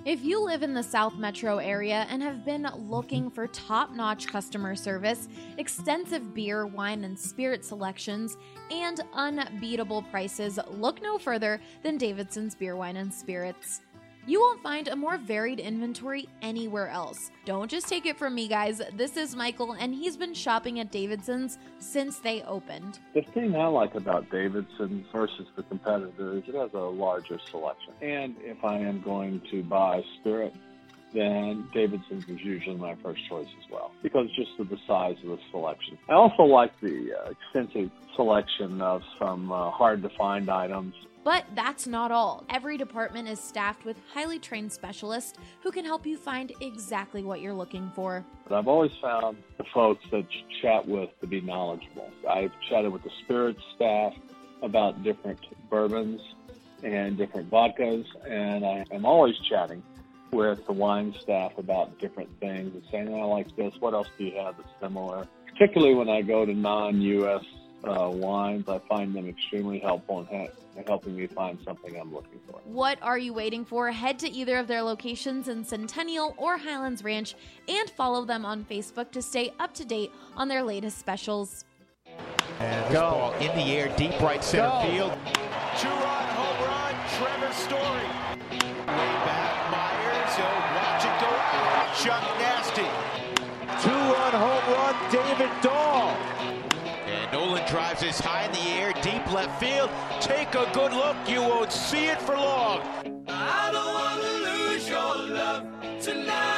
If you live in the South Metro area and have been looking for top-notch customer service, extensive beer, wine, and spirit selections, and unbeatable prices, look no further than Davidson's Beer, Wine, and Spirits. You won't find a more varied inventory anywhere else. Don't just take it from me, guys. This is Michael, and he's been shopping at Davidson's since they opened. The thing I like about Davidson's versus the competitor is it has a larger selection. And if I am going to buy spirit, then Davidson's is usually my first choice as well, because just of the size of the selection. I also like the extensive selection of some hard-to-find items. But that's not all. Every department is staffed with highly trained specialists who can help you find exactly what you're looking for. But I've always found the folks that you chat with to be knowledgeable. I've chatted with the spirits staff about different bourbons and different vodkas, and I am always chatting with the wine staff about different things and saying, I like this, what else do you have that's similar? Particularly when I go to non-U.S. wines, I find them extremely helpful in helping me find something I'm looking for. What are you waiting for? Head to either of their locations in Centennial or Highlands Ranch and follow them on Facebook to stay up to date on their latest specials. And this ball in the air, deep right center field. Two-run home run, Trevor Story. Way back, Myers, watch it go out. Chuck Nasty. Two-run home run, David Dahl. And Nolan drives this high in the air, deep left field. Take a good look, you won't see it for long. I don't want to lose your love tonight.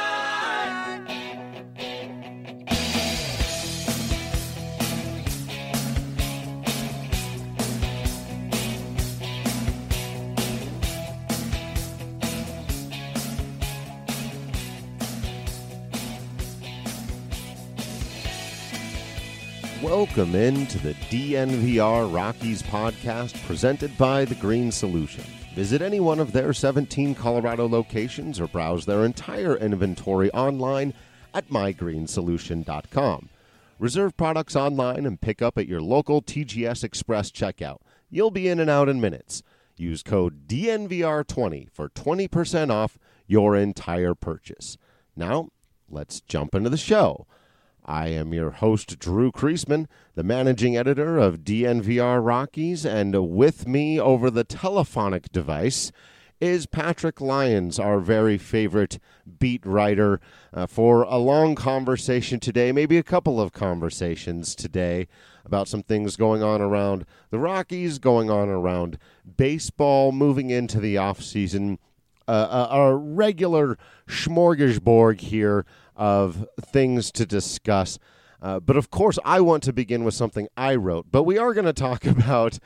Welcome into the DNVR Rockies podcast presented by The Green Solution. Visit any one of their 17 Colorado locations or browse their entire inventory online at mygreensolution.com. Reserve products online and pick up at your local TGS Express checkout. You'll be in and out in minutes. Use code DNVR20 for 20% off your entire purchase. Now, let's jump into the show. I am your host, Drew Kreisman, the managing editor of DNVR Rockies, and with me over the telephonic device is Patrick Lyons, our very favorite beat writer, for a long conversation today, maybe a couple of conversations today about some things going on around the Rockies, going on around baseball, moving into the offseason, our regular smorgasbord here of things to discuss. But of course, I want to begin with something I wrote. But we are going to talk about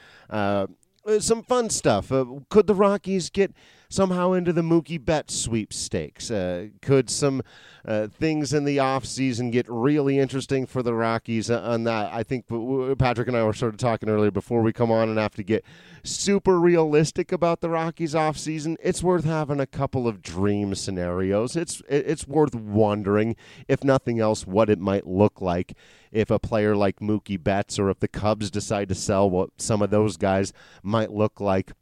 some fun stuff. Could the Rockies get somehow into the Mookie Betts sweepstakes? Could some things in the offseason get really interesting for the Rockies on that? I think Patrick and I were sort of talking earlier before we come on and have to get super realistic about the Rockies offseason. It's worth having a couple of dream scenarios. It's worth wondering, if nothing else, what it might look like if a player like Mookie Betts or if the Cubs decide to sell, what some of those guys might look like.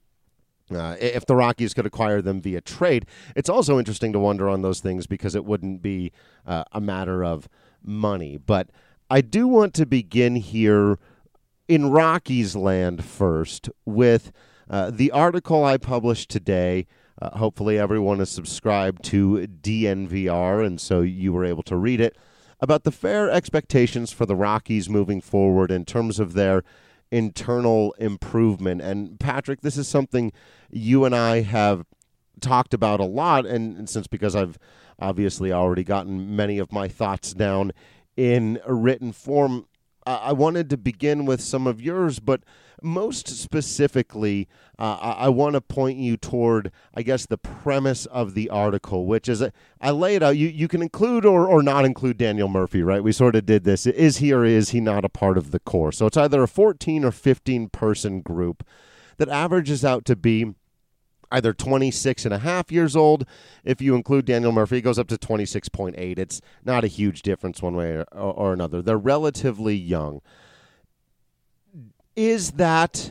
If the Rockies could acquire them via trade. It's also interesting to wonder on those things because it wouldn't be a matter of money. But I do want to begin here in Rockies land first with the article I published today. Hopefully everyone is subscribed to DNVR, and so you were able to read it, about the fair expectations for the Rockies moving forward in terms of their internal improvement. And Patrick, this is something you and I have talked about a lot, and since because I've obviously already gotten many of my thoughts down in a written form, I wanted to begin with some of yours, but most specifically, I want to point you toward, I guess, the premise of the article, which is, I lay it out. You can include or not include Daniel Murphy, right? We sort of did this. Is he or is he not a part of the core? So it's either a 14 or 15 person group that averages out to be either 26 and a half years old. If you include Daniel Murphy, it goes up to 26.8. It's not a huge difference one way or another. They're relatively young. Is that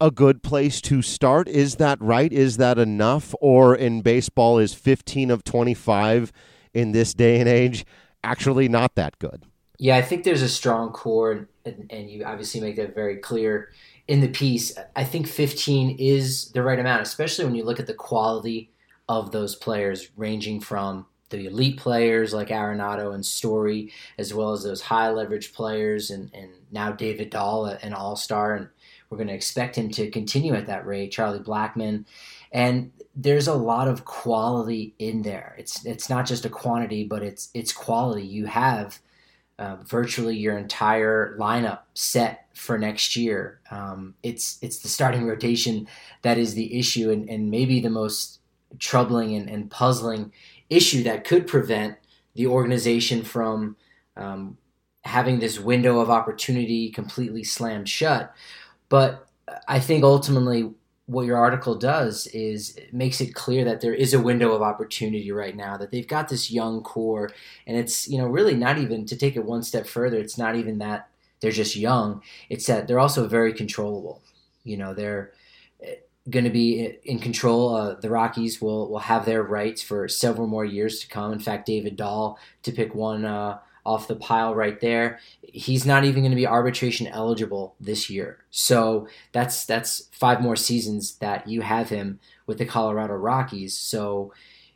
a good place to start. Is that right? Is that enough? Or in baseball, is 15 of 25 in this day and age actually not that good? Yeah, I think there's a strong core, and you obviously make that very clear in the piece. I think 15 is the right amount, especially when you look at the quality of those players, ranging from the elite players like Arenado and Story, as well as those high leverage players, and now David Dahl, an all-star, and we're going to expect him to continue at that rate, Charlie Blackmon. And there's a lot of quality in there. It's not just a quantity, but it's quality. You have virtually your entire lineup set for next year. It's the starting rotation that is the issue, and maybe the most troubling and puzzling issue that could prevent the organization from having this window of opportunity completely slammed shut. But I think ultimately what your article does is it makes it clear that there is a window of opportunity right now, that they've got this young core, and it's, really not even, to take it one step further, it's not even that they're just young, it's that they're also very controllable. They're going to be in control. The Rockies will have their rights for several more years to come. In fact, David Dahl, to pick one off the pile right there, he's not even going to be arbitration eligible this year. So that's 5 more seasons that you have him with the Colorado Rockies. So,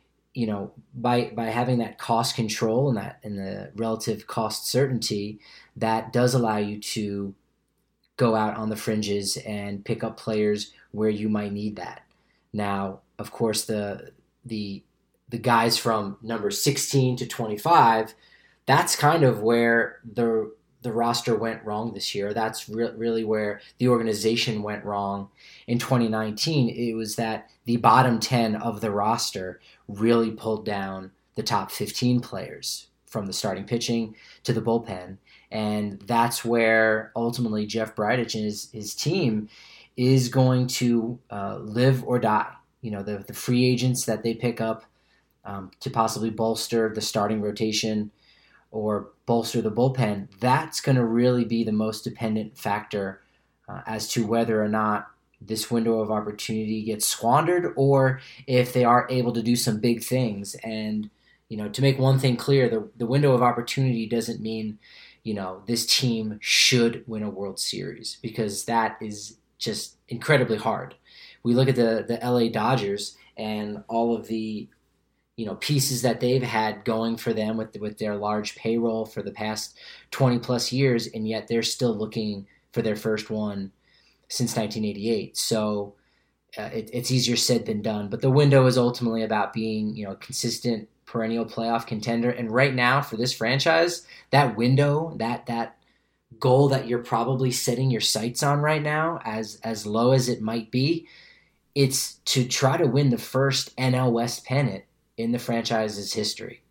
by having that cost control and the relative cost certainty, that does allow you to go out on the fringes and pick up players where you might need that. Now, of course, the guys from number 16 to 25, that's kind of where the roster went wrong this year. That's really where the organization went wrong in 2019. It was that the bottom 10 of the roster really pulled down the top 15 players, from the starting pitching to the bullpen. And that's where ultimately Jeff Bridich and his team is going to live or die. The free agents that they pick up to possibly bolster the starting rotation or bolster the bullpen, that's going to really be the most dependent factor as to whether or not this window of opportunity gets squandered, or if they are able to do some big things. And, to make one thing clear, the window of opportunity doesn't mean, this team should win a World Series, because that is just incredibly hard. We look at the LA Dodgers and all of the pieces that they've had going for them with their large payroll for the past 20 plus years, and yet they're still looking for their first one since 1988. So it's easier said than done. But the window is ultimately about being, a consistent perennial playoff contender. And right now for this franchise, that window, that goal that you're probably setting your sights on right now, as low as it might be, it's to try to win the first NL West pennant in the franchise's history.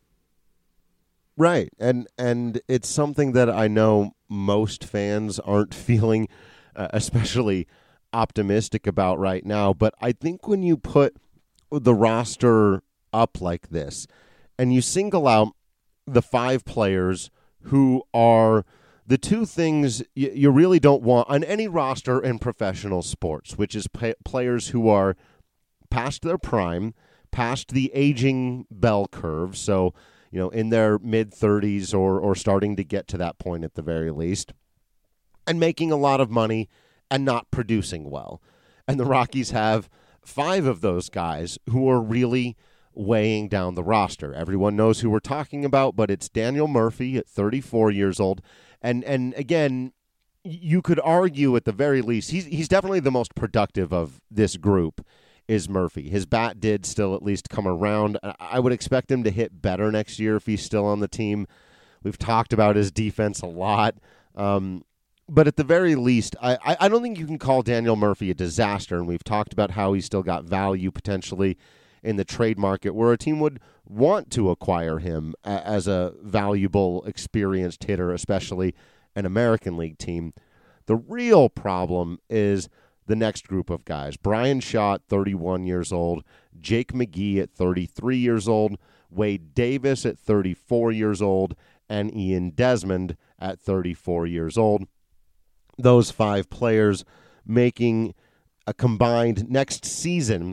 Right. And it's something that I know most fans aren't feeling especially optimistic about right now. But I think when you put the roster up like this and you single out the 5 players who are the 2 things you really don't want on any roster in professional sports, which is players who are past their prime, past the aging bell curve, so in their mid-30s or starting to get to that point at the very least, and making a lot of money and not producing well. And the Rockies have 5 of those guys who are really weighing down the roster. Everyone knows who we're talking about, but it's Daniel Murphy at 34 years old. And again, you could argue at the very least, he's definitely the most productive of this group, is Murphy. His bat did still at least come around. I would expect him to hit better next year if he's still on the team. We've talked about his defense a lot. But at the very least, I don't think you can call Daniel Murphy a disaster, and we've talked about how he's still got value potentially in the trade market where a team would want to acquire him as a valuable, experienced hitter, especially an American League team. The real problem is the next group of guys. Brian Shaw at 31 years old, Jake McGee at 33 years old, Wade Davis at 34 years old, and Ian Desmond at 34 years old. Those 5 players making a combined next season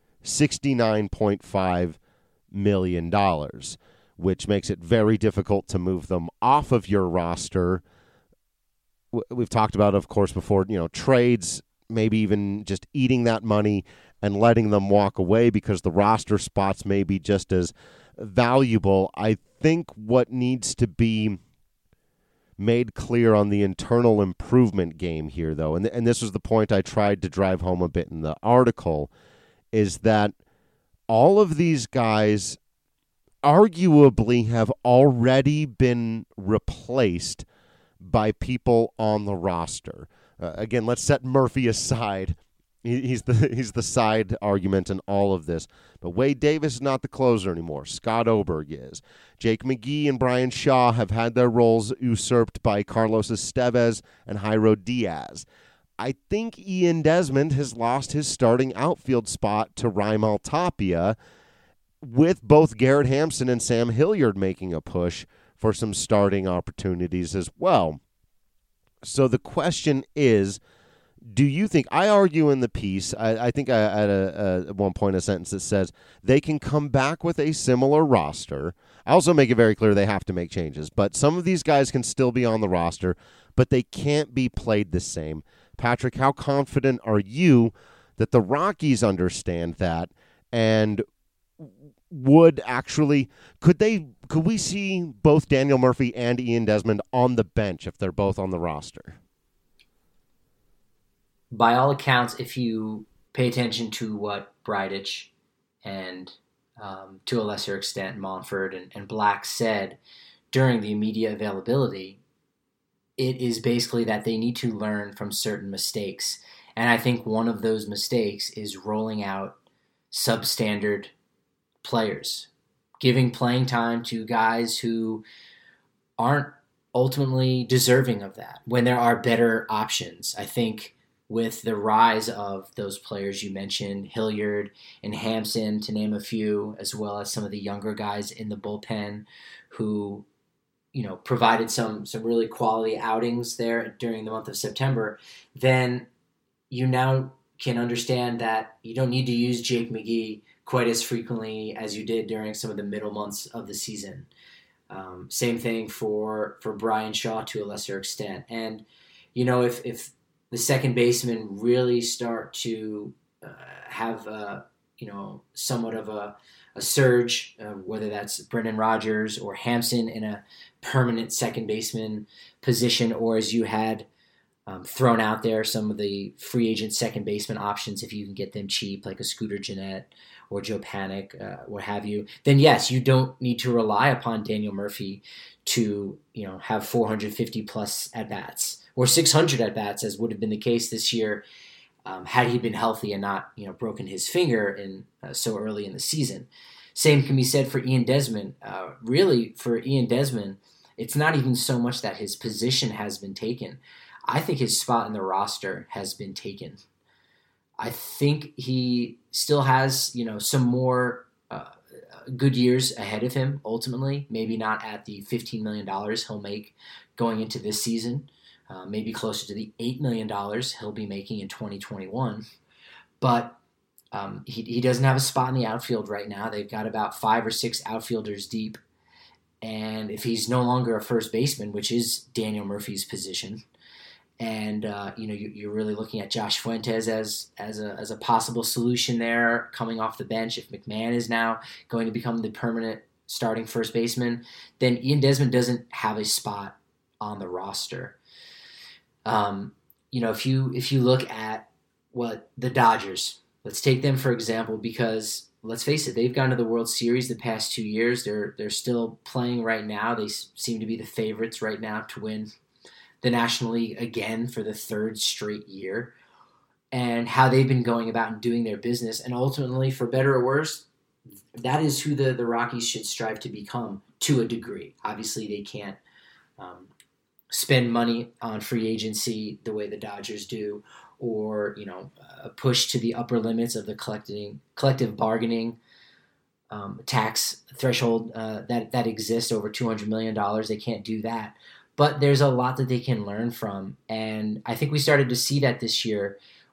$69.5 million, which makes it very difficult to move them off of your roster. We've talked about, of course, before, trades, maybe even just eating that money and letting them walk away because the roster spots may be just as valuable. I think what needs to be made clear on the internal improvement game here, though, and this was the point I tried to drive home a bit in the article, is that all of these guys arguably have already been replaced by people on the roster. Again, let's set Murphy aside. He's the side argument in all of this. But Wade Davis is not the closer anymore. Scott Oberg is. Jake McGee and Brian Shaw have had their roles usurped by Carlos Estevez and Jairo Diaz. I think Ian Desmond has lost his starting outfield spot to Raimel Tapia, with both Garrett Hampson and Sam Hilliard making a push for some starting opportunities as well. So the question is, do you think, I argue in the piece, I think I had at one point a sentence that says they can come back with a similar roster. I also make it very clear they have to make changes, but some of these guys can still be on the roster, but they can't be played the same. Patrick, how confident are you that the Rockies understand that, and could we see both Daniel Murphy and Ian Desmond on the bench if they're both on the roster? By all accounts, if you pay attention to what Bridich and to a lesser extent Monfort and Black said during the media availability, it is basically that they need to learn from certain mistakes. And I think one of those mistakes is rolling out substandard players, giving playing time to guys who aren't ultimately deserving of that when there are better options. I think with the rise of those players you mentioned, Hilliard and Hampson, to name a few, as well as some of the younger guys in the bullpen who, provided some really quality outings there during the month of September, then you now can understand that you don't need to use Jake McGee quite as frequently as you did during some of the middle months of the season. Same thing for Brian Shaw to a lesser extent. And, if the second baseman really start to have somewhat of a surge, whether that's Brendan Rodgers or Hampson in a permanent second baseman position, or as you had thrown out there, some of the free agent second baseman options, if you can get them cheap, like a Scooter Gennett or Joe Panic, what have you, then yes, you don't need to rely upon Daniel Murphy to have 450 plus at-bats or 600 at-bats, as would have been the case this year had he been healthy and not broken his finger in so early in the season. Same can be said for Ian Desmond. Really, for Ian Desmond, it's not even so much that his position has been taken. I think his spot in the roster has been taken. I think he still has, some more good years ahead of him, ultimately. Maybe not at the $15 million he'll make going into this season. Maybe closer to the $8 million he'll be making in 2021. But he doesn't have a spot in the outfield right now. They've got about 5 or 6 outfielders deep. And if he's no longer a first baseman, which is Daniel Murphy's position, and you're really looking at Josh Fuentes as a possible solution there coming off the bench. If McMahon is now going to become the permanent starting first baseman, then Ian Desmond doesn't have a spot on the roster. If you look at what the Dodgers, let's take them for example, because let's face it, they've gone to the World Series the past 2 years. They're still playing right now. They seem to be the favorites right now to win the National League again for the 3rd straight year, and how they've been going about and doing their business. And ultimately, for better or worse, that is who the Rockies should strive to become to a degree. Obviously, they can't spend money on free agency the way the Dodgers do, or push to the upper limits of the collective bargaining tax threshold that exists over $200 million. They can't do that. But there's a lot that they can learn from. And I think we started to see that this year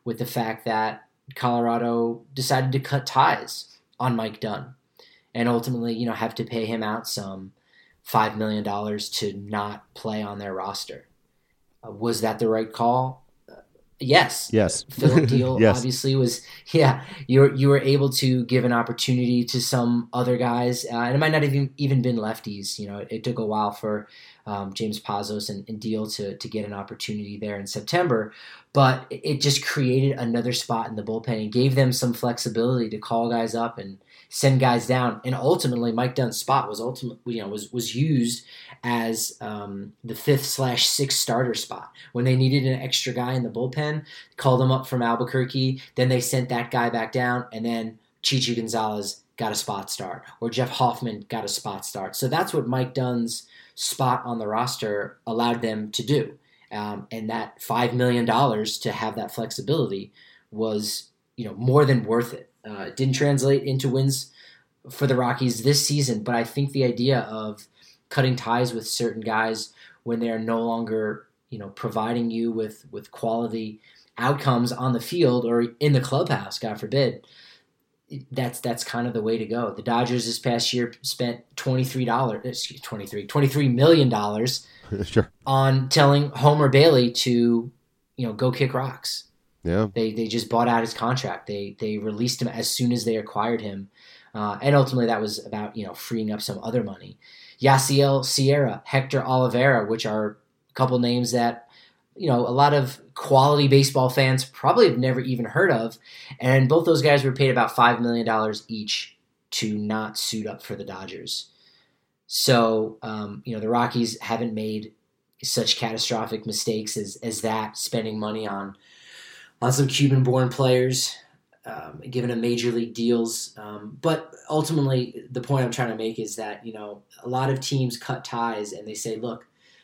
with the fact that Colorado decided to cut ties on Mike Dunn and ultimately, have to pay him out some $5 million to not play on their roster. Was that the right call? Yes. Philip Deal yes. Obviously was, you were able to give an opportunity to some other guys, and it might not have even been lefties. It took a while for James Pazos and Deal to get an opportunity there in September, but it just created another spot in the bullpen and gave them some flexibility to call guys up and send guys down. And ultimately, Mike Dunn's spot was used as the 5th/6th starter spot. When they needed an extra guy in the bullpen, called him up from Albuquerque, then they sent that guy back down, and then Chichi Gonzalez got a spot start, or Jeff Hoffman got a spot start. So that's what Mike Dunn's spot on the roster allowed them to do. And that $5 million to have that flexibility was, more than worth it. It didn't translate into wins for the Rockies this season, but I think the idea of cutting ties with certain guys when they're no longer, providing you with quality outcomes on the field or in the clubhouse, God forbid, that's kind of the way to go. The Dodgers this past year spent $23 million sure. on telling Homer Bailey to, go kick rocks. Yeah. They just bought out his contract. They released him as soon as they acquired him. And ultimately that was about, freeing up some other money. Yasiel Sierra, Hector Oliveira, which are a couple names that, a lot of quality baseball fans probably have never even heard of. And both those guys were paid about $5 million each to not suit up for the Dodgers. So, the Rockies haven't made such catastrophic mistakes as that, spending money on some Cuban-born players, given them major league deals. But ultimately, the point I'm trying to make is that, a lot of teams cut ties and they say, look,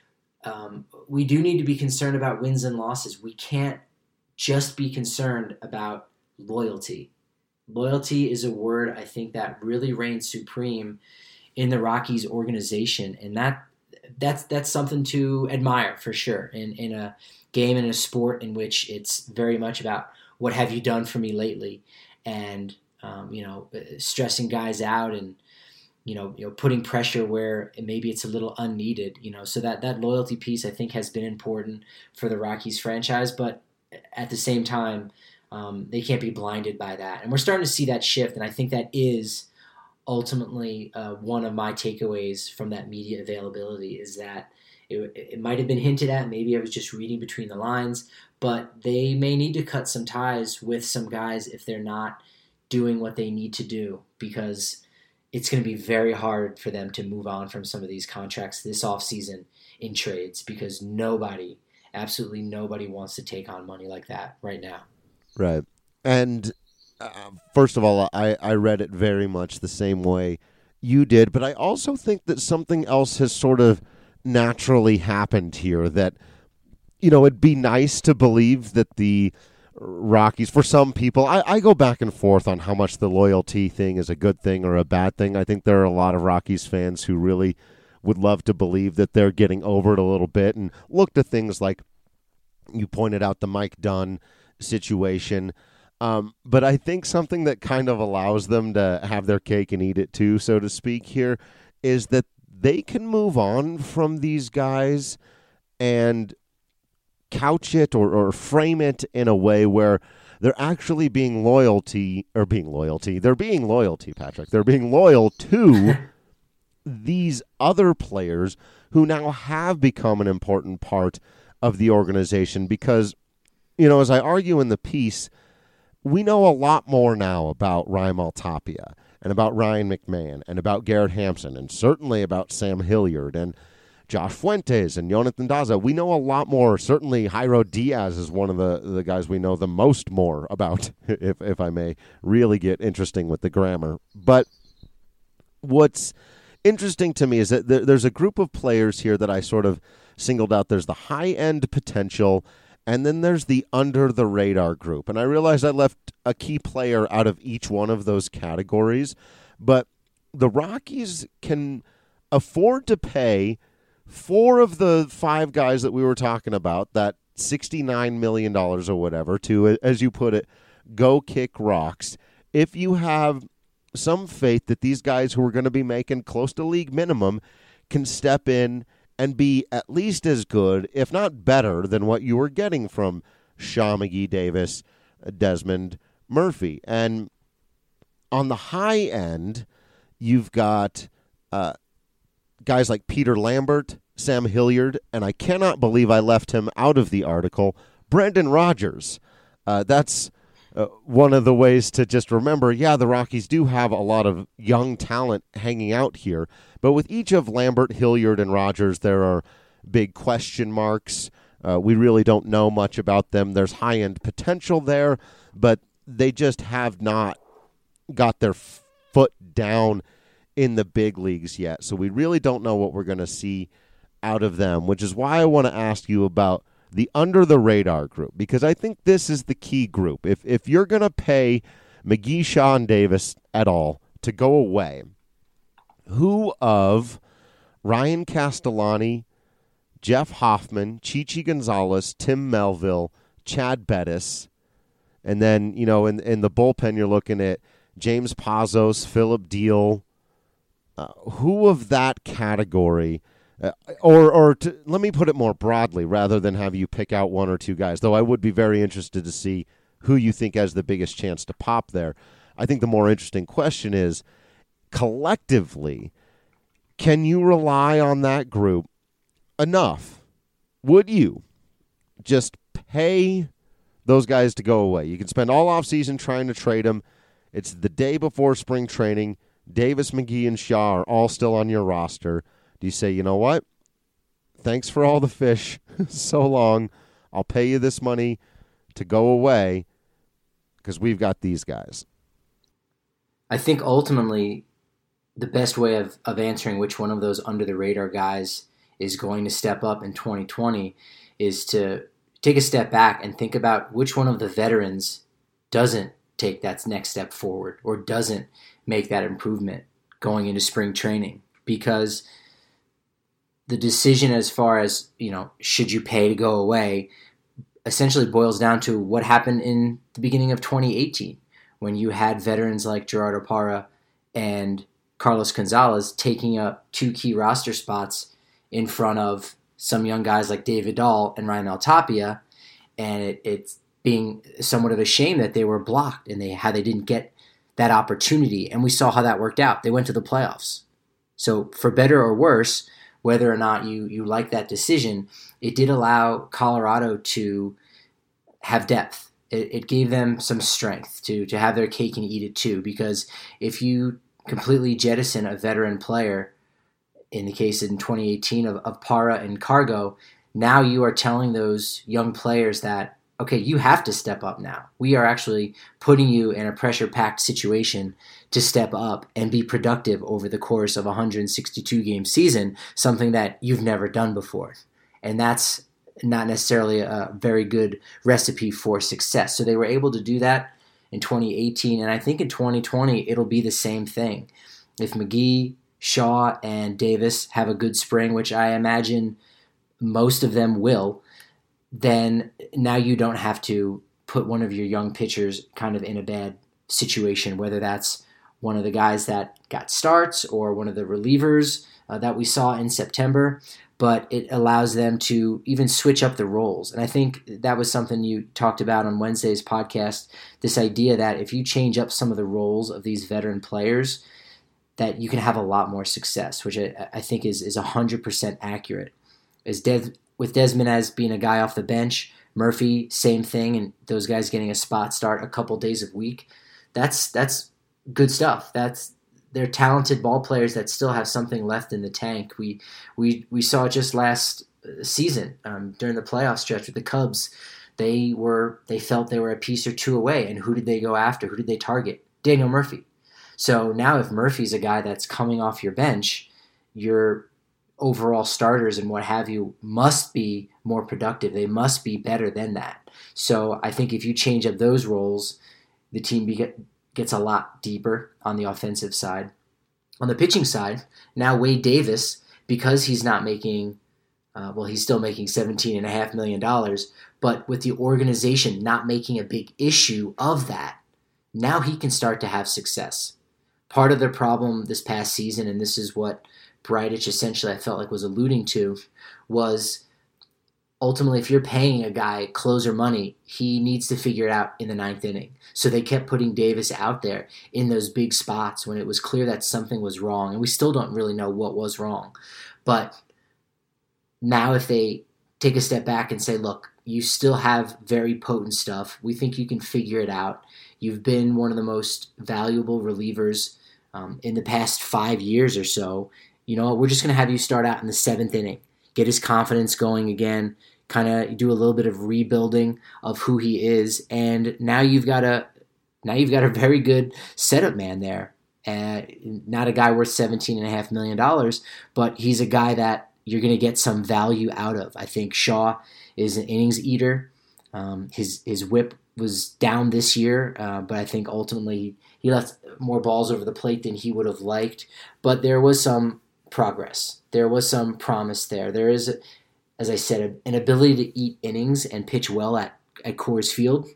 we do need to be concerned about wins and losses. We can't just be concerned about loyalty. Loyalty is a word, I think, that really reigns supreme in the Rockies organization. And that's something to admire for sure in a game and a sport in which it's very much about what have you done for me lately, and stressing guys out and putting pressure where maybe it's a little unneeded. So that loyalty piece I think has been important for the Rockies franchise, but at the same time they can't be blinded by that, and we're starting to see that shift. And I think that is ultimately one of my takeaways from that media availability is that it might have been hinted at, maybe I was just reading between the lines, but they may need to cut some ties with some guys if they're not doing what they need to do, because it's going to be very hard for them to move on from some of these contracts this offseason in trades, because absolutely nobody wants to take on money like that right now. Right. And first of all, I read it very much the same way you did, but I also think that something else has sort of naturally happened here, that, it'd be nice to believe that the Rockies, for some people, I go back and forth on how much the loyalty thing is a good thing or a bad thing. I think there are a lot of Rockies fans who really would love to believe that they're getting over it a little bit and look to things like you pointed out, the Mike Dunn situation. But I think something that kind of allows them to have their cake and eat it too, so to speak, here, is that they can move on from these guys and couch it or frame it in a way where they're actually being loyal, Patrick. They're being loyal to these other players who now have become an important part of the organization, because, as I argue in the piece, we know a lot more now about Raimel Tapia and about Ryan McMahon and about Garrett Hampson and certainly about Sam Hilliard and Josh Fuentes and Jonathan Daza. We know a lot more. Certainly Jairo Diaz is one of the guys we know the most more about, if I may really get interesting with the grammar. But what's interesting to me is that there's a group of players here that I sort of singled out. There's the high-end potential, and then there's the under-the-radar group. And I realize I left a key player out of each one of those categories, but the Rockies can afford to pay 4 of the 5 guys that we were talking about that $69 million or whatever to, as you put it, go kick rocks. If you have some faith that these guys who are going to be making close to league minimum can step in and be at least as good, if not better, than what you were getting from Shaw, McGee, Davis, Desmond, Murphy. And on the high end, you've got guys like Peter Lambert, Sam Hilliard, and I cannot believe I left him out of the article, Brendan Rodgers. That's one of the ways to just remember, the Rockies do have a lot of young talent hanging out here. But with each of Lambert, Hilliard, and Rodgers, there are big question marks. We really don't know much about them. There's high-end potential there, but they just have not got their foot down in the big leagues yet. So we really don't know what we're going to see out of them, which is why I want to ask you about the under-the-radar group, because I think this is the key group. If you're going to pay McGee, Shaw, and Davis at all to go away, who of Ryan Castellani, Jeff Hoffman, Chichi Gonzalez, Tim Melville, Chad Bettis, and then, in the bullpen you're looking at James Pazos, Philip Deal, who of that category... let me put it more broadly rather than have you pick out one or two guys, though I would be very interested to see who you think has the biggest chance to pop there. I think the more interesting question is, collectively, can you rely on that group enough? Would you just pay those guys to go away? You can spend all offseason trying to trade them. It's the day before spring training. Davis, McGee, and Shaw are all still on your roster. Do you say, you know what? Thanks for all the fish so long. I'll pay you this money to go away because we've got these guys. I think ultimately the best way of answering which one of those under-the-radar guys is going to step up in 2020 is to take a step back and think about which one of the veterans doesn't take that next step forward or doesn't make that improvement going into spring training. Because the decision as far as, should you pay to go away essentially boils down to what happened in the beginning of 2018 when you had veterans like Gerardo Parra and Carlos Gonzalez taking up two key roster spots in front of some young guys like David Dahl and Raimel Tapia, and it's being somewhat of a shame that they were blocked and how they didn't get that opportunity. And we saw how that worked out. They went to the playoffs. So for better or worse, whether or not you like that decision, it did allow Colorado to have depth. It gave them some strength to have their cake and eat it too, because if you completely jettison a veteran player, in the case in 2018 of Parra and Cargo, now you are telling those young players that, okay, you have to step up now. We are actually putting you in a pressure-packed situation to step up and be productive over the course of a 162-game season, something that you've never done before. And that's not necessarily a very good recipe for success. So they were able to do that in 2018, and I think in 2020 it'll be the same thing. If McGee, Shaw, and Davis have a good spring, which I imagine most of them will, then now you don't have to put one of your young pitchers kind of in a bad situation, whether that's one of the guys that got starts or one of the relievers that we saw in September, but it allows them to even switch up the roles. And I think that was something you talked about on Wednesday's podcast, this idea that if you change up some of the roles of these veteran players, that you can have a lot more success, which I think is 100% accurate. With Desmond as being a guy off the bench, Murphy, same thing, and those guys getting a spot start a couple days a week, that's good stuff. They're talented ball players that still have something left in the tank. We saw it just last season during the playoff stretch with the Cubs. They felt they were a piece or two away, and who did they go after? Who did they target? Daniel Murphy. So now if Murphy's a guy that's coming off your bench, your overall starters and what have you must be more productive. They must be better than that. So I think if you change up those roles, the team gets a lot deeper on the offensive side. On the pitching side, now Wade Davis, because he's not making Well, he's still making $17.5 million, but with the organization not making a big issue of that, now he can start to have success. Part of the problem this past season, and this is what Bridich essentially I felt like was alluding to, was ultimately if you're paying a guy closer money, he needs to figure it out in the ninth inning. So they kept putting Davis out there in those big spots when it was clear that something was wrong, and we still don't really know what was wrong. But now if they take a step back and say, look, you still have very potent stuff. We think you can figure it out. You've been one of the most valuable relievers in the past 5 years or so. You know, we're just going to have you start out in the seventh inning, get his confidence going again, kind of do a little bit of rebuilding of who he is, and now you've got a very good setup man there. Not a guy worth $17.5 million, but he's a guy that you're going to get some value out of. I think Shaw is an innings eater. His whip was down this year, but I think ultimately he left more balls over the plate than he would have liked. But there was some progress. There was some promise there. There is, as I said, an ability to eat innings and pitch well at Coors Field.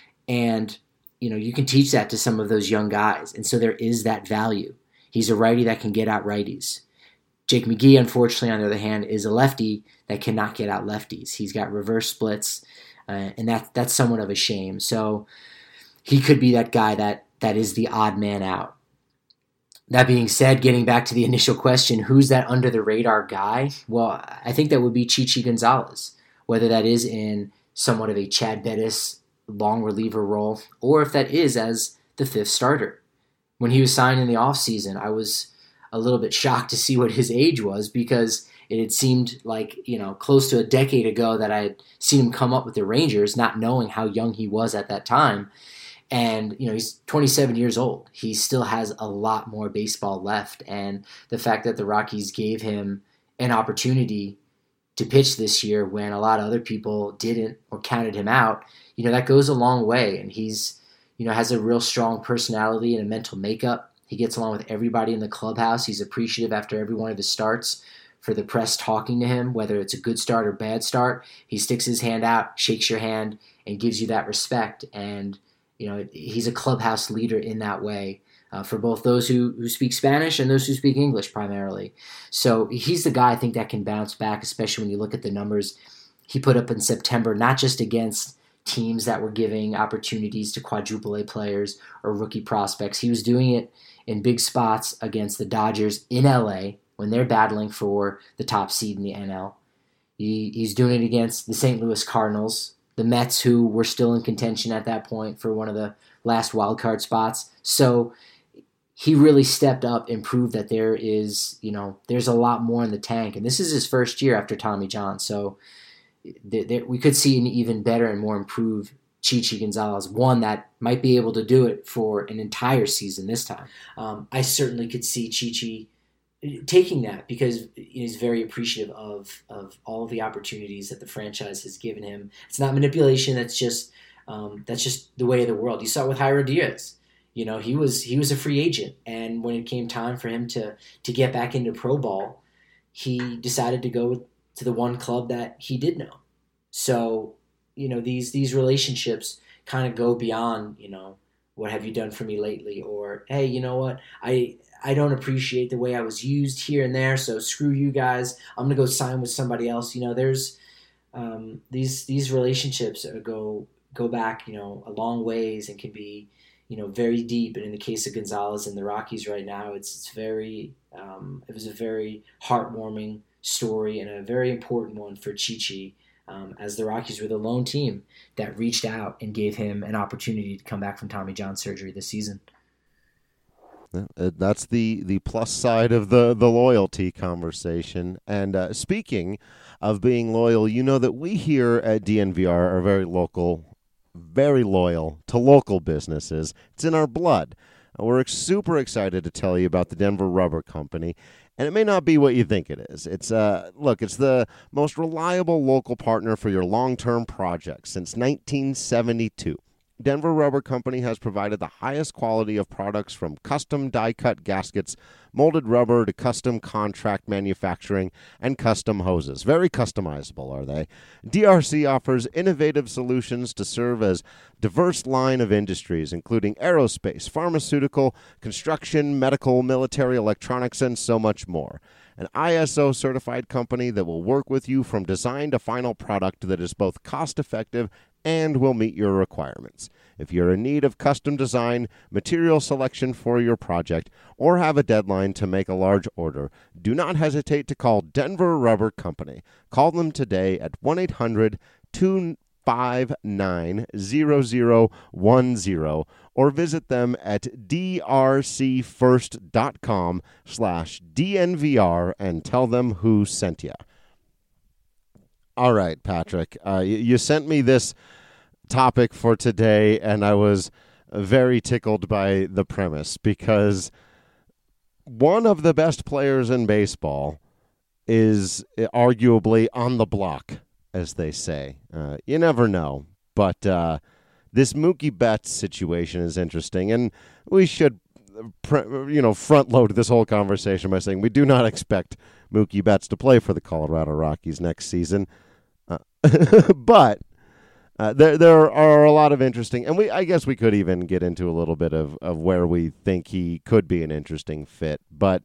And, you know, you can teach that to some of those young guys. And so there is that value. He's a righty that can get out righties. Jake McGee, unfortunately, on the other hand, is a lefty that cannot get out lefties. He's got reverse splits, and that's somewhat of a shame. So he could be that guy that is the odd man out. That being said, getting back to the initial question, who's that under-the-radar guy? Well, I think that would be Chichi Gonzalez, whether that is in somewhat of a Chad Bettis long reliever role, or if that is as the fifth starter. When he was signed in the offseason, I was a little bit shocked to see what his age was, because it had seemed like, you know, close to a decade ago that I had seen him come up with the Rangers, not knowing how young he was at that time. And, you know, he's 27 years old. He still has a lot more baseball left. And the fact that the Rockies gave him an opportunity to pitch this year when a lot of other people didn't or counted him out, you know, that goes a long way. And he's, you know, has a real strong personality and a mental makeup. He gets along with everybody in the clubhouse. He's appreciative after every one of his starts for the press talking to him, whether it's a good start or bad start. He sticks his hand out, shakes your hand, and gives you that respect. And, you know, he's a clubhouse leader in that way for both those who speak Spanish and those who speak English primarily. So he's the guy I think that can bounce back, especially when you look at the numbers he put up in September, not just against teams that were giving opportunities to quadruple A players or rookie prospects. He was doing it in big spots against the Dodgers in LA when they're battling for the top seed in the NL. He's doing it against the St. Louis Cardinals, the Mets, who were still in contention at that point for one of the last wildcard spots. So he really stepped up and proved that there is, you know, there's a lot more in the tank. And this is his first year after Tommy John. So we could see an even better and more improved Chichi Gonzalez, one that might be able to do it for an entire season this time. I certainly could see Chichi taking that because he's very appreciative of all of the opportunities that the franchise has given him. It's not manipulation. That's just the way of the world. You saw it with Jairo Diaz. You know, he was a free agent, and when it came time for him to get back into pro ball, he decided to go to the one club that he did know. So, you know, these relationships kind of go beyond, you know, what have you done for me lately? Or, hey, you know what? I don't appreciate the way I was used here and there, so screw you guys. I'm going to go sign with somebody else. You know, there's these relationships go back, you know, a long ways and can be, you know, very deep. And in the case of Gonzalez and the Rockies right now, it's very it was a very heartwarming story and a very important one for Chichi, as the Rockies were the lone team that reached out and gave him an opportunity to come back from Tommy John surgery this season. That's the plus side of the loyalty conversation. And speaking of being loyal, you know that we here at DNVR are very loyal to local businesses. It's in our blood. We're super excited to tell you about the Denver Rubber Company. And it may not be what you think it is. It's it's the most reliable local partner for your long-term projects since 1972. Denver Rubber Company has provided the highest quality of products from custom die-cut gaskets, molded rubber to custom contract manufacturing, and custom hoses. Very customizable, are they? DRC offers innovative solutions to serve as diverse line of industries, including aerospace, pharmaceutical, construction, medical, military, electronics, and so much more. An ISO-certified company that will work with you from design to final product that is both cost-effective and will meet your requirements. If you're in need of custom design, material selection for your project, or have a deadline to make a large order, do not hesitate to call Denver Rubber Company. Call them today at 1-800-259-0010 or visit them at drcfirst.com/DNVR and tell them who sent you. All right, Patrick, you sent me this topic for today, and I was very tickled by the premise because one of the best players in baseball is arguably on the block, as they say. You never know, but this Mookie Betts situation is interesting, and we should front load this whole conversation by saying we do not expect Mookie Betts to play for the Colorado Rockies next season. But there are a lot of interesting, and I guess we could even get into a little bit of where we think he could be an interesting fit. But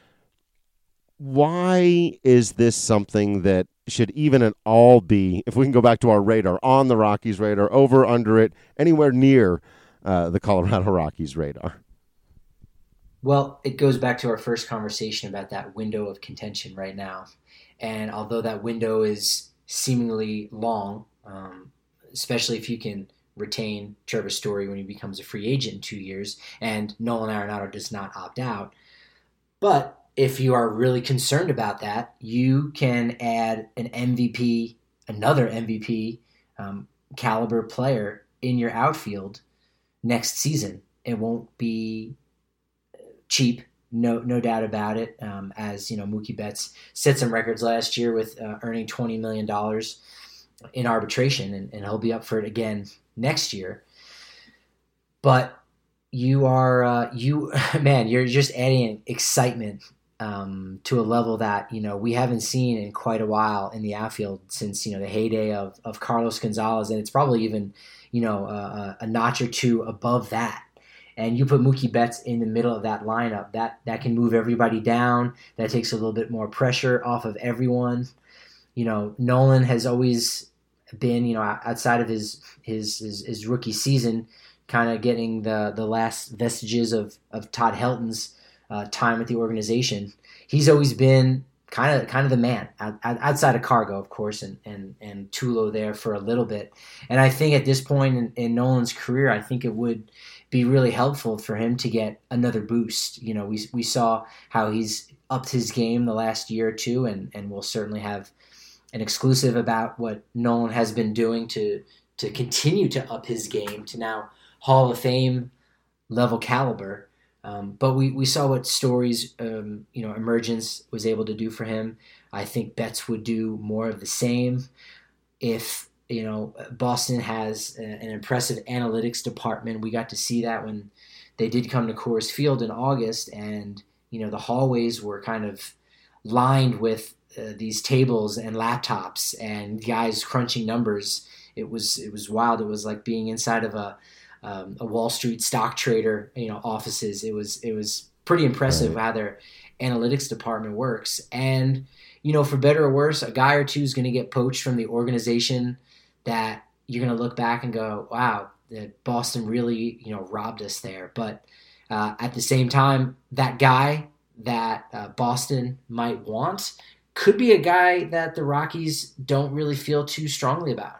why is this something that should even at all be, if we can go back to our radar, on the Rockies' radar, over, under it, anywhere near the Colorado Rockies' radar? Well, it goes back to our first conversation about that window of contention right now. And although that window is seemingly long, especially if you can retain Trevor Story when he becomes a free agent in 2 years, and Nolan Arenado does not opt out. But if you are really concerned about that, you can add an MVP, another MVP caliber player in your outfield next season. It won't be cheap. No doubt about it. As you know, Mookie Betts set some records last year with earning $20 million in arbitration, and he'll be up for it again next year. But you're just adding excitement to a level that we haven't seen in quite a while in the outfield since the heyday of Carlos Gonzalez, and it's probably even a notch or two above that. And you put Mookie Betts in the middle of that lineup, that can move everybody down. That takes a little bit more pressure off of everyone. Nolan has always been, outside of his rookie season, kind of getting the last vestiges of Todd Helton's time at the organization. He's always been kind of the man outside of Cargo, of course, and Tulo there for a little bit. And I think at this point in Nolan's career, I think it would be really helpful for him to get another boost. We saw how he's upped his game the last year or two, and we'll certainly have an exclusive about what Nolan has been doing to continue to up his game to now Hall of Fame level caliber. But we saw what Story's emergence was able to do for him. I think Betts would do more of the same. If Boston has an impressive analytics department, we got to see that when they did come to Coors Field in August, and the hallways were kind of lined with these tables and laptops and guys crunching numbers. It was wild. It was like being inside of a Wall Street stock trader, offices. It was pretty impressive how their analytics department works. And, for better or worse, a guy or two is going to get poached from the organization that you're going to look back and go, wow, that Boston really, robbed us there. But at the same time, that guy that Boston might want could be a guy that the Rockies don't really feel too strongly about.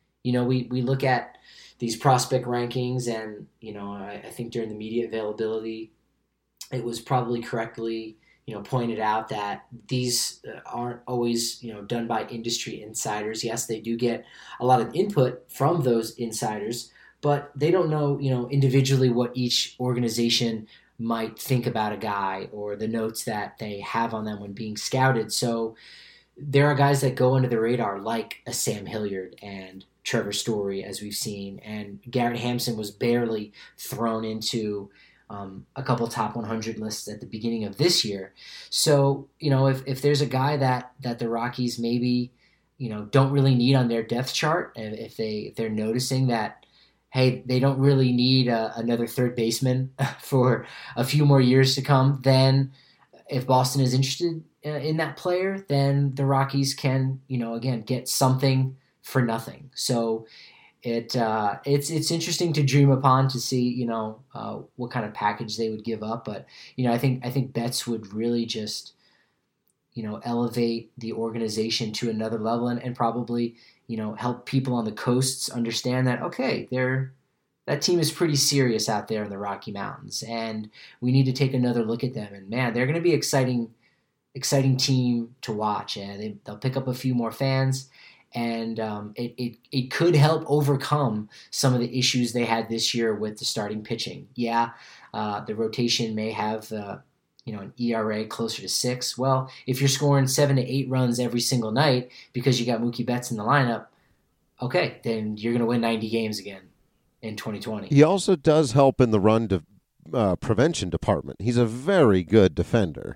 We look at these prospect rankings, and I think during the media availability, it was probably correctly pointed out that these aren't always done by industry insiders. Yes, they do get a lot of input from those insiders, but they don't know individually what each organization might think about a guy or the notes that they have on them when being scouted. So there are guys that go under the radar, like a Sam Hilliard and Trevor Story, as we've seen, and Garrett Hampson was barely thrown into a couple top 100 lists at the beginning of this year. So, if there's a guy that the Rockies maybe, don't really need on their depth chart, and if they're noticing that, hey, they don't really need another third baseman for a few more years to come, then if Boston is interested in that player, then the Rockies can, again, get something for nothing. So it's interesting to dream upon to see, what kind of package they would give up. But, I think Betts would really just, elevate the organization to another level and probably, help people on the coasts understand that, okay, that team is pretty serious out there in the Rocky Mountains, and we need to take another look at them. And man, they're going to be exciting team to watch, and they'll pick up a few more fans. And it could help overcome some of the issues they had this year with the starting pitching. Yeah, the rotation may have an ERA closer to 6. Well, if you're scoring 7 to 8 runs every single night because you got Mookie Betts in the lineup, okay, then you're going to win 90 games again in 2020. He also does help in the run prevention department. He's a very good defender.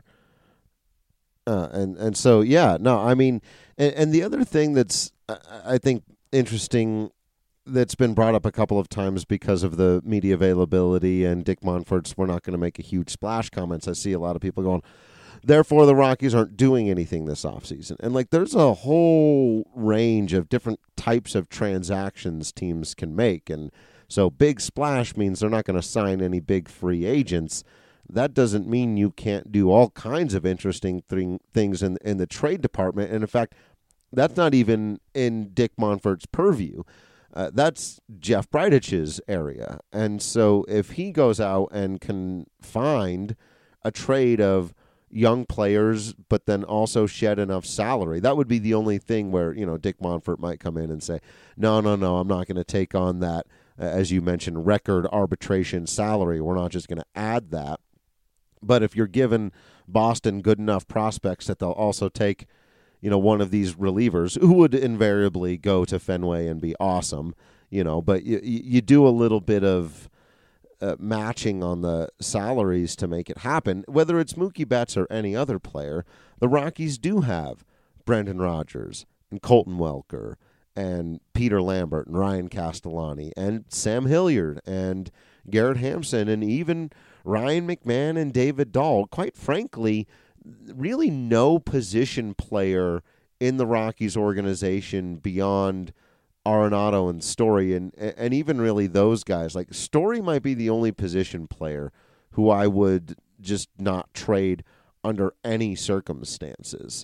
And so, yeah, no, I mean, and the other thing that's, I think, interesting that's been brought up a couple of times because of the media availability and Dick Monfort's "we're not going to make a huge splash" comments. I see a lot of people going, therefore the Rockies aren't doing anything this offseason. And, there's a whole range of different types of transactions teams can make. And so big splash means they're not going to sign any big free agents. That doesn't mean you can't do all kinds of interesting things in the trade department. And, in fact, that's not even in Dick Monfort's purview. That's Jeff Bridic's area. And so if he goes out and can find a trade of young players but then also shed enough salary, that would be the only thing where, Dick Monfort might come in and say, no, I'm not going to take on that, as you mentioned, record arbitration salary. We're not just going to add that. But if you're giving Boston good enough prospects that they'll also take, one of these relievers who would invariably go to Fenway and be awesome, but you do a little bit of matching on the salaries to make it happen. Whether it's Mookie Betts or any other player, the Rockies do have Brendan Rodgers and Colton Welker and Peter Lambert and Ryan Castellani and Sam Hilliard and Garrett Hampson and even Ryan McMahon and David Dahl. Quite frankly, really no position player in the Rockies organization beyond Arenado and Story, and even really those guys. Story might be the only position player who I would just not trade under any circumstances.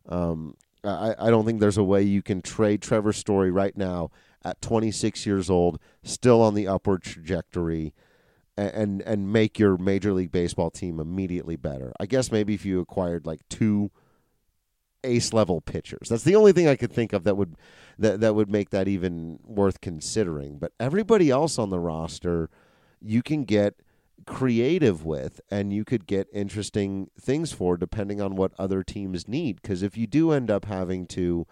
I don't think there's a way you can trade Trevor Story right now at 26 years old, still on the upward trajectory, and make your Major League Baseball team immediately better. I guess maybe if you acquired 2 ace-level pitchers. That's the only thing I could think of that would make that even worth considering. But everybody else on the roster you can get creative with, and you could get interesting things for depending on what other teams need. Because if you do end up having to,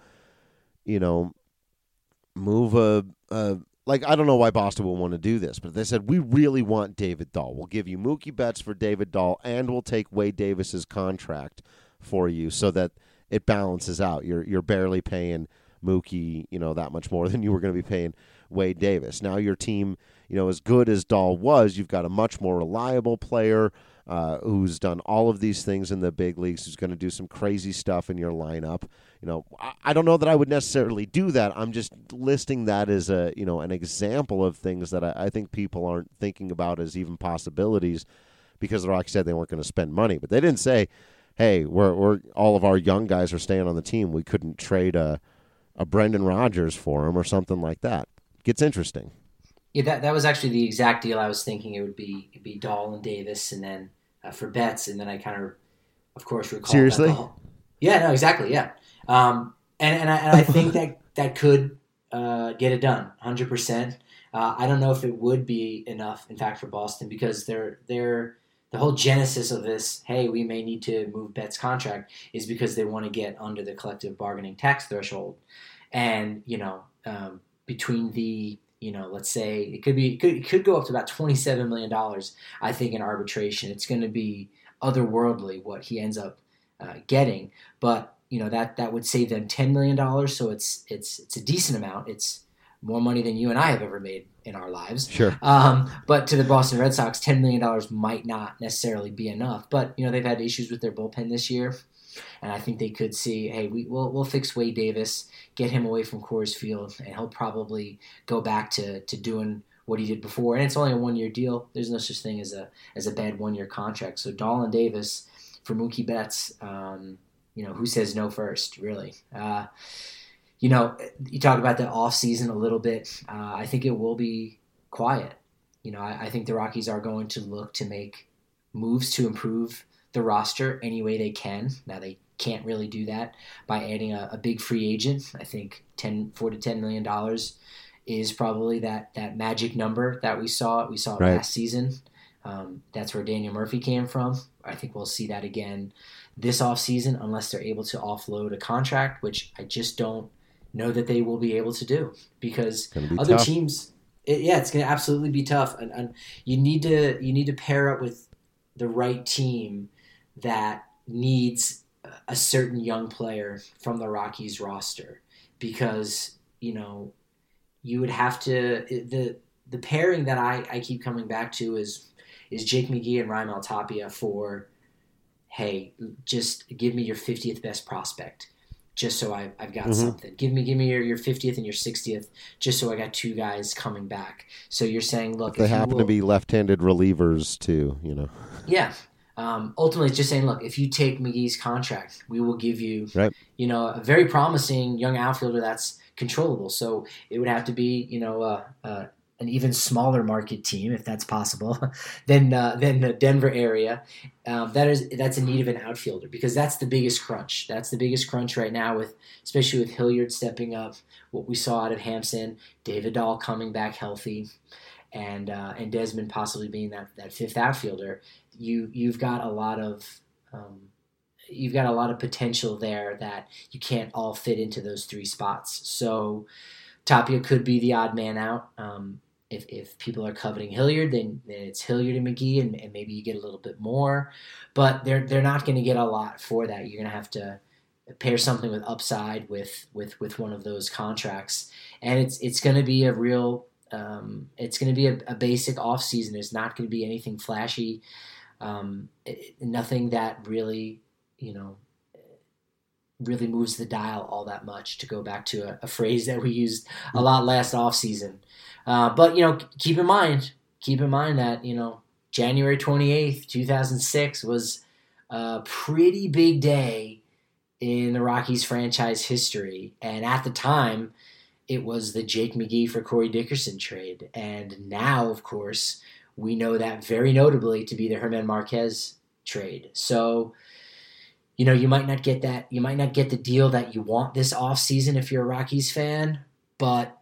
move I don't know why Boston will want to do this, but they said, we really want David Dahl. We'll give you Mookie Betts for David Dahl, and we'll take Wade Davis's contract for you so that it balances out. You're barely paying Mookie, that much more than you were going to be paying Wade Davis. Now your team, as good as Dahl was, you've got a much more reliable player who's done all of these things in the big leagues, who's going to do some crazy stuff in your lineup. I don't know that I would necessarily do that. I'm just listing that as an example of things that I think people aren't thinking about as even possibilities, because the Rockies said they weren't going to spend money, but they didn't say, hey, we're all of our young guys are staying on the team. We couldn't trade a Brendan Rodgers for him or something like that. It gets interesting. Yeah, that was actually the exact deal I was thinking. It'd be Dahl and Davis, and then for Betts, and then I kind of course, recall. Seriously? Yeah, no, exactly, yeah. And I think that could get it done, 100%. I don't know if it would be enough, in fact, for Boston, because they're the whole genesis of this, hey, we may need to move Betts' contract, is because they want to get under the collective bargaining tax threshold. And, between the, let's say it could go up to about $27 million, I think, in arbitration. It's going to be otherworldly what he ends up getting. But, that would save them $10 million. So it's a decent amount. It's more money than you and I have ever made in our lives. Sure. But to the Boston Red Sox, $10 million might not necessarily be enough. But, they've had issues with their bullpen this year. And I think they could see, hey, we'll fix Wade Davis, get him away from Coors Field, and he'll probably go back to doing what he did before. And it's only a 1-year deal. There's no such thing as a bad 1-year contract. So Dahl and Davis for Mookie Betts, who says no first, really? You talk about the offseason a little bit. I think it will be quiet. I think the Rockies are going to look to make moves to improve the roster any way they can. Now, they can't really do that by adding a big free agent. I think $4 to $10 million is probably that magic number that we saw. We saw it right. last season. That's where Daniel Murphy came from. I think we'll see that again this offseason unless they're able to offload a contract, which I just don't know that they will be able to do because other tough. teams, it's going to absolutely be tough. And you need to pair up with the right team that needs a certain young player from the Rockies roster because, you would have to the pairing that I keep coming back to is Jake McGee and Raimel Tapia for, hey, just give me your 50th best prospect just so I've got something. Give me your 50th and your 60th just so I got 2 guys coming back. So you're saying, look, they happen to be left-handed relievers too, Yeah. Ultimately, it's just saying, look, if you take McGee's contract, we will give you, right. A very promising young outfielder that's controllable. So it would have to be, an even smaller market team, if that's possible, than the Denver area. That's in need of an outfielder because that's the biggest crunch. That's the biggest crunch right now, especially with Hilliard stepping up. What we saw out of Hampson, David Dahl coming back healthy, and Desmond possibly being that 5th outfielder. You've got a lot of potential there that you can't all fit into those 3 spots. So Tapia could be the odd man out. If people are coveting Hilliard, then it's Hilliard and McGee, and maybe you get a little bit more. But they're not going to get a lot for that. You're going to have to pair something with upside with one of those contracts, and it's going to be a real. It's going to be a basic offseason. It's not going to be anything flashy. Nothing that really, really moves the dial all that much, to go back to a phrase that we used a lot last offseason. But, keep in mind that, January 28th, 2006 was a pretty big day in the Rockies franchise history. And at the time, it was the Jake McGee for Corey Dickerson trade. And now, of course, we know that very notably to be the Germán Márquez trade. So, you might not get that. You might not get the deal that you want this offseason if you're a Rockies fan, but,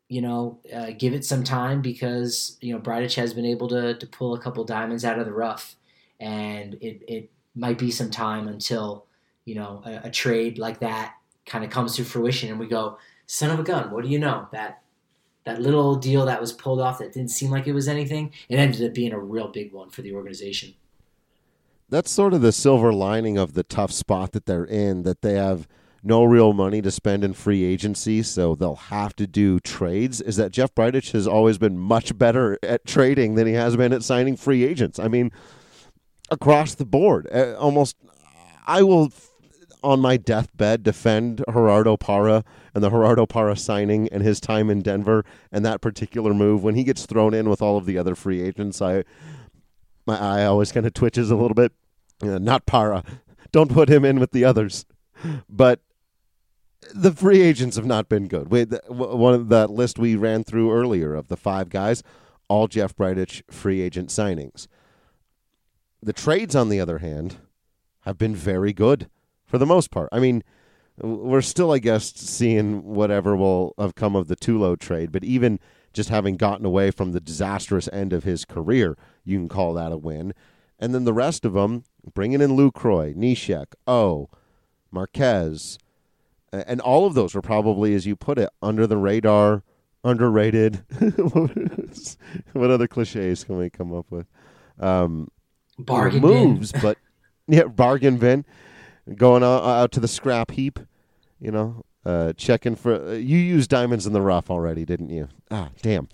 give it some time because, Bridich has been able to pull a couple diamonds out of the rough. And it might be some time until, a trade like that kind of comes to fruition and we go, son of a gun, what do you know? That little deal that was pulled off that didn't seem like it was anything, it ended up being a real big one for the organization. That's sort of the silver lining of the tough spot that they're in, that they have no real money to spend in free agency, so they'll have to do trades, is that Jeff Bridich has always been much better at trading than he has been at signing free agents. I mean, across the board. Almost, I will, on my deathbed, defend Gerardo Parra and the Gerardo Parra signing and his time in Denver and that particular move. When he gets thrown in with all of the other free agents, my eye always kind of twitches a little bit. Not Parra. Don't put him in with the others. But the free agents have not been good. One of that list we ran through earlier of the 5 guys, all Jeff Bridich free agent signings. The trades, on the other hand, have been very good for the most part. I mean, we're still, I guess, seeing whatever will have come of the Tulo trade, but even just having gotten away from the disastrous end of his career, you can call that a win. And then the rest of them, bringing in Lucroy, Neshek, Marquez, and all of those were probably, as you put it, under the radar underrated. What other cliches can we come up with? Bargain moves, bin. But bargain bin. Going out to the scrap heap, checking for. You used diamonds in the rough already, didn't you? Ah, damn.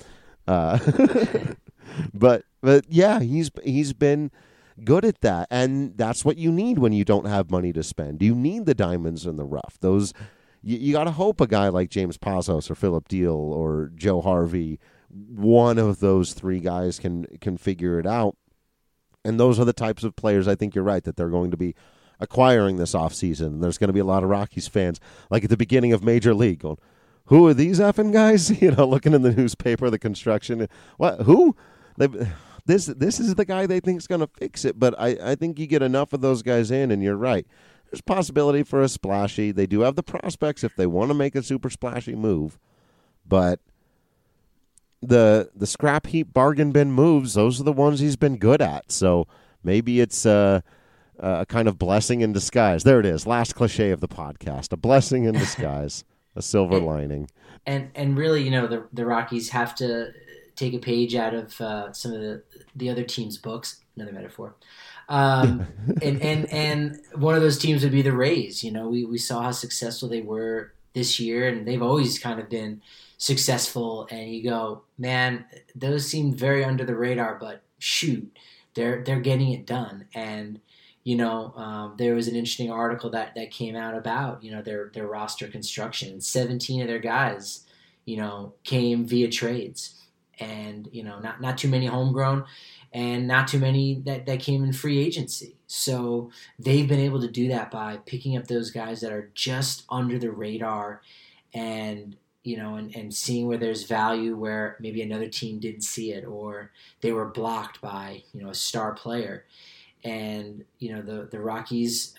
But yeah, he's been good at that, and that's what you need when you don't have money to spend. You need the diamonds in the rough. Those you got to hope a guy like James Pazos or Philip Deal or Joe Harvey, one of those three guys can figure it out. And those are the types of players I think you're right that they're going to be acquiring this offseason. There's going to be a lot of Rockies fans, like at the beginning of Major League, going, who are these effing guys? Looking in the newspaper, the construction. What? Who? This is the guy they think is going to fix it. But I think you get enough of those guys in, and you're right. There's possibility for a splashy. They do have the prospects if they want to make a super splashy move. But the scrap heap bargain bin moves, those are the ones he's been good at. So maybe it's a kind of blessing in disguise. There it is. Last cliche of the podcast. A blessing in disguise. A silver lining. And really, the Rockies have to take a page out of some of the other teams' books. Another metaphor. And one of those teams would be the Rays. We saw how successful they were this year, and they've always kind of been successful. And you go, man, those seem very under the radar, but shoot, they're getting it done. And there was an interesting article that came out about, their roster construction. 17 of their guys, came via trades, and, not too many homegrown and not too many that came in free agency. So they've been able to do that by picking up those guys that are just under the radar and, and seeing where there's value where maybe another team didn't see it, or they were blocked by, a star player. And, the Rockies,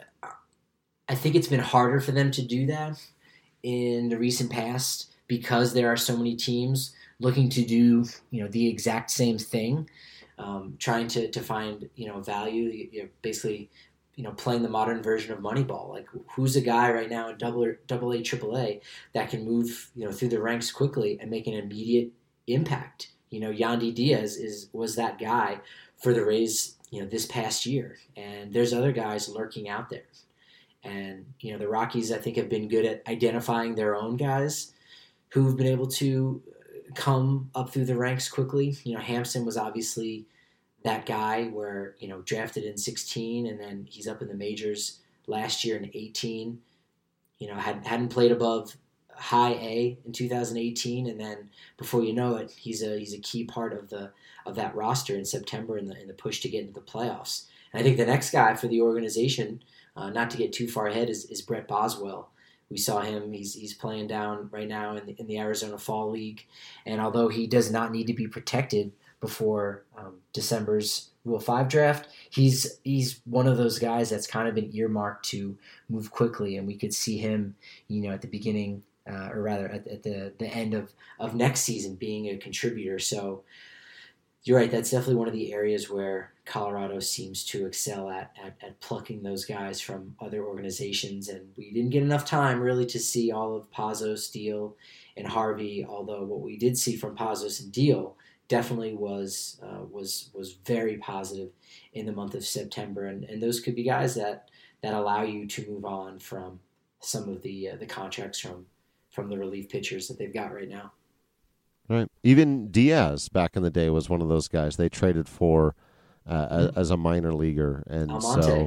I think it's been harder for them to do that in the recent past because there are so many teams looking to do, the exact same thing, trying to find, value. You're basically, playing the modern version of Moneyball. Like, who's a guy right now in AA, AAA that can move, through the ranks quickly and make an immediate impact? Yandy Diaz was that guy for the Rays, this past year. And there's other guys lurking out there. And, the Rockies, I think, have been good at identifying their own guys who've been able to come up through the ranks quickly. Hampson was obviously that guy where, drafted in 16 and then he's up in the majors last year in 18. Hadn't played above high A in 2018, and then before you know it, he's a key part of that roster in September in the push to get into the playoffs. And I think the next guy for the organization, not to get too far ahead, is Brett Boswell. We saw him; he's playing down right now in the Arizona Fall League, and although he does not need to be protected before December's Rule 5 draft, he's one of those guys that's kind of been earmarked to move quickly, and we could see him, at the beginning. Or rather at the end of next season being a contributor. So you're right, that's definitely one of the areas where Colorado seems to excel at plucking those guys from other organizations. And we didn't get enough time really to see all of Pazos, Deal, and Harvey, although what we did see from Pazos and Deal definitely was very positive in the month of September. And those could be guys that allow you to move on from some of the contracts from the relief pitchers that they've got right now. Right. Even Diaz back in the day was one of those guys they traded for as a minor leaguer. And Almonte.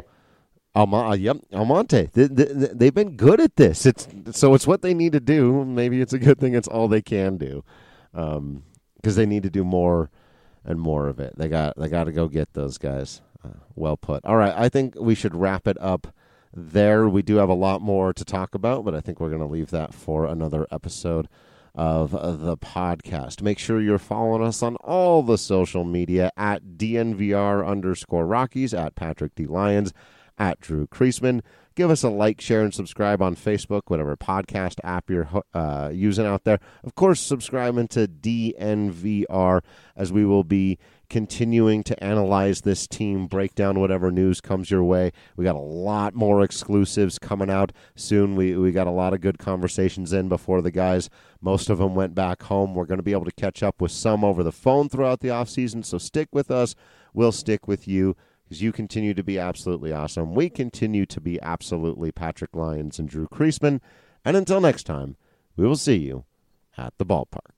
Almonte. They've been good at this. It's what they need to do. Maybe it's a good thing it's all they can do because they need to do more and more of it. They got to go get those guys. Well put. All right. I think we should wrap it up there. We do have a lot more to talk about, but I think we're going to leave that for another episode of the podcast. Make sure you're following us on all the social media at DNVR_Rockies, at Patrick D. Lyons, at Drew Kreisman. Give us a like, share, and subscribe on Facebook, whatever podcast app you're using out there. Of course, subscribing to DNVR, as we will be continuing to analyze this team, break down whatever news comes your way. We got a lot more exclusives coming out soon. We got a lot of good conversations in before the guys. Most of them went back home. We're going to be able to catch up with some over the phone throughout the offseason, so stick with us. We'll stick with you because you continue to be absolutely awesome. We continue to be absolutely Patrick Lyons and Drew Creasman. And until next time, we will see you at the ballpark.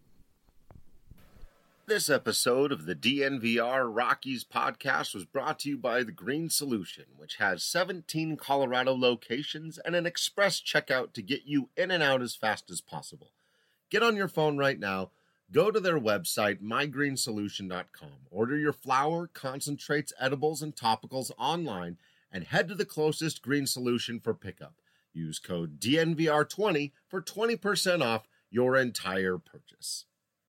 This episode of the DNVR Rockies podcast was brought to you by The Green Solution, which has 17 Colorado locations and an express checkout to get you in and out as fast as possible. Get on your phone right now, go to their website, mygreensolution.com, order your flour, concentrates, edibles, and topicals online, and head to the closest Green Solution for pickup. Use code DNVR20 for 20% off your entire purchase.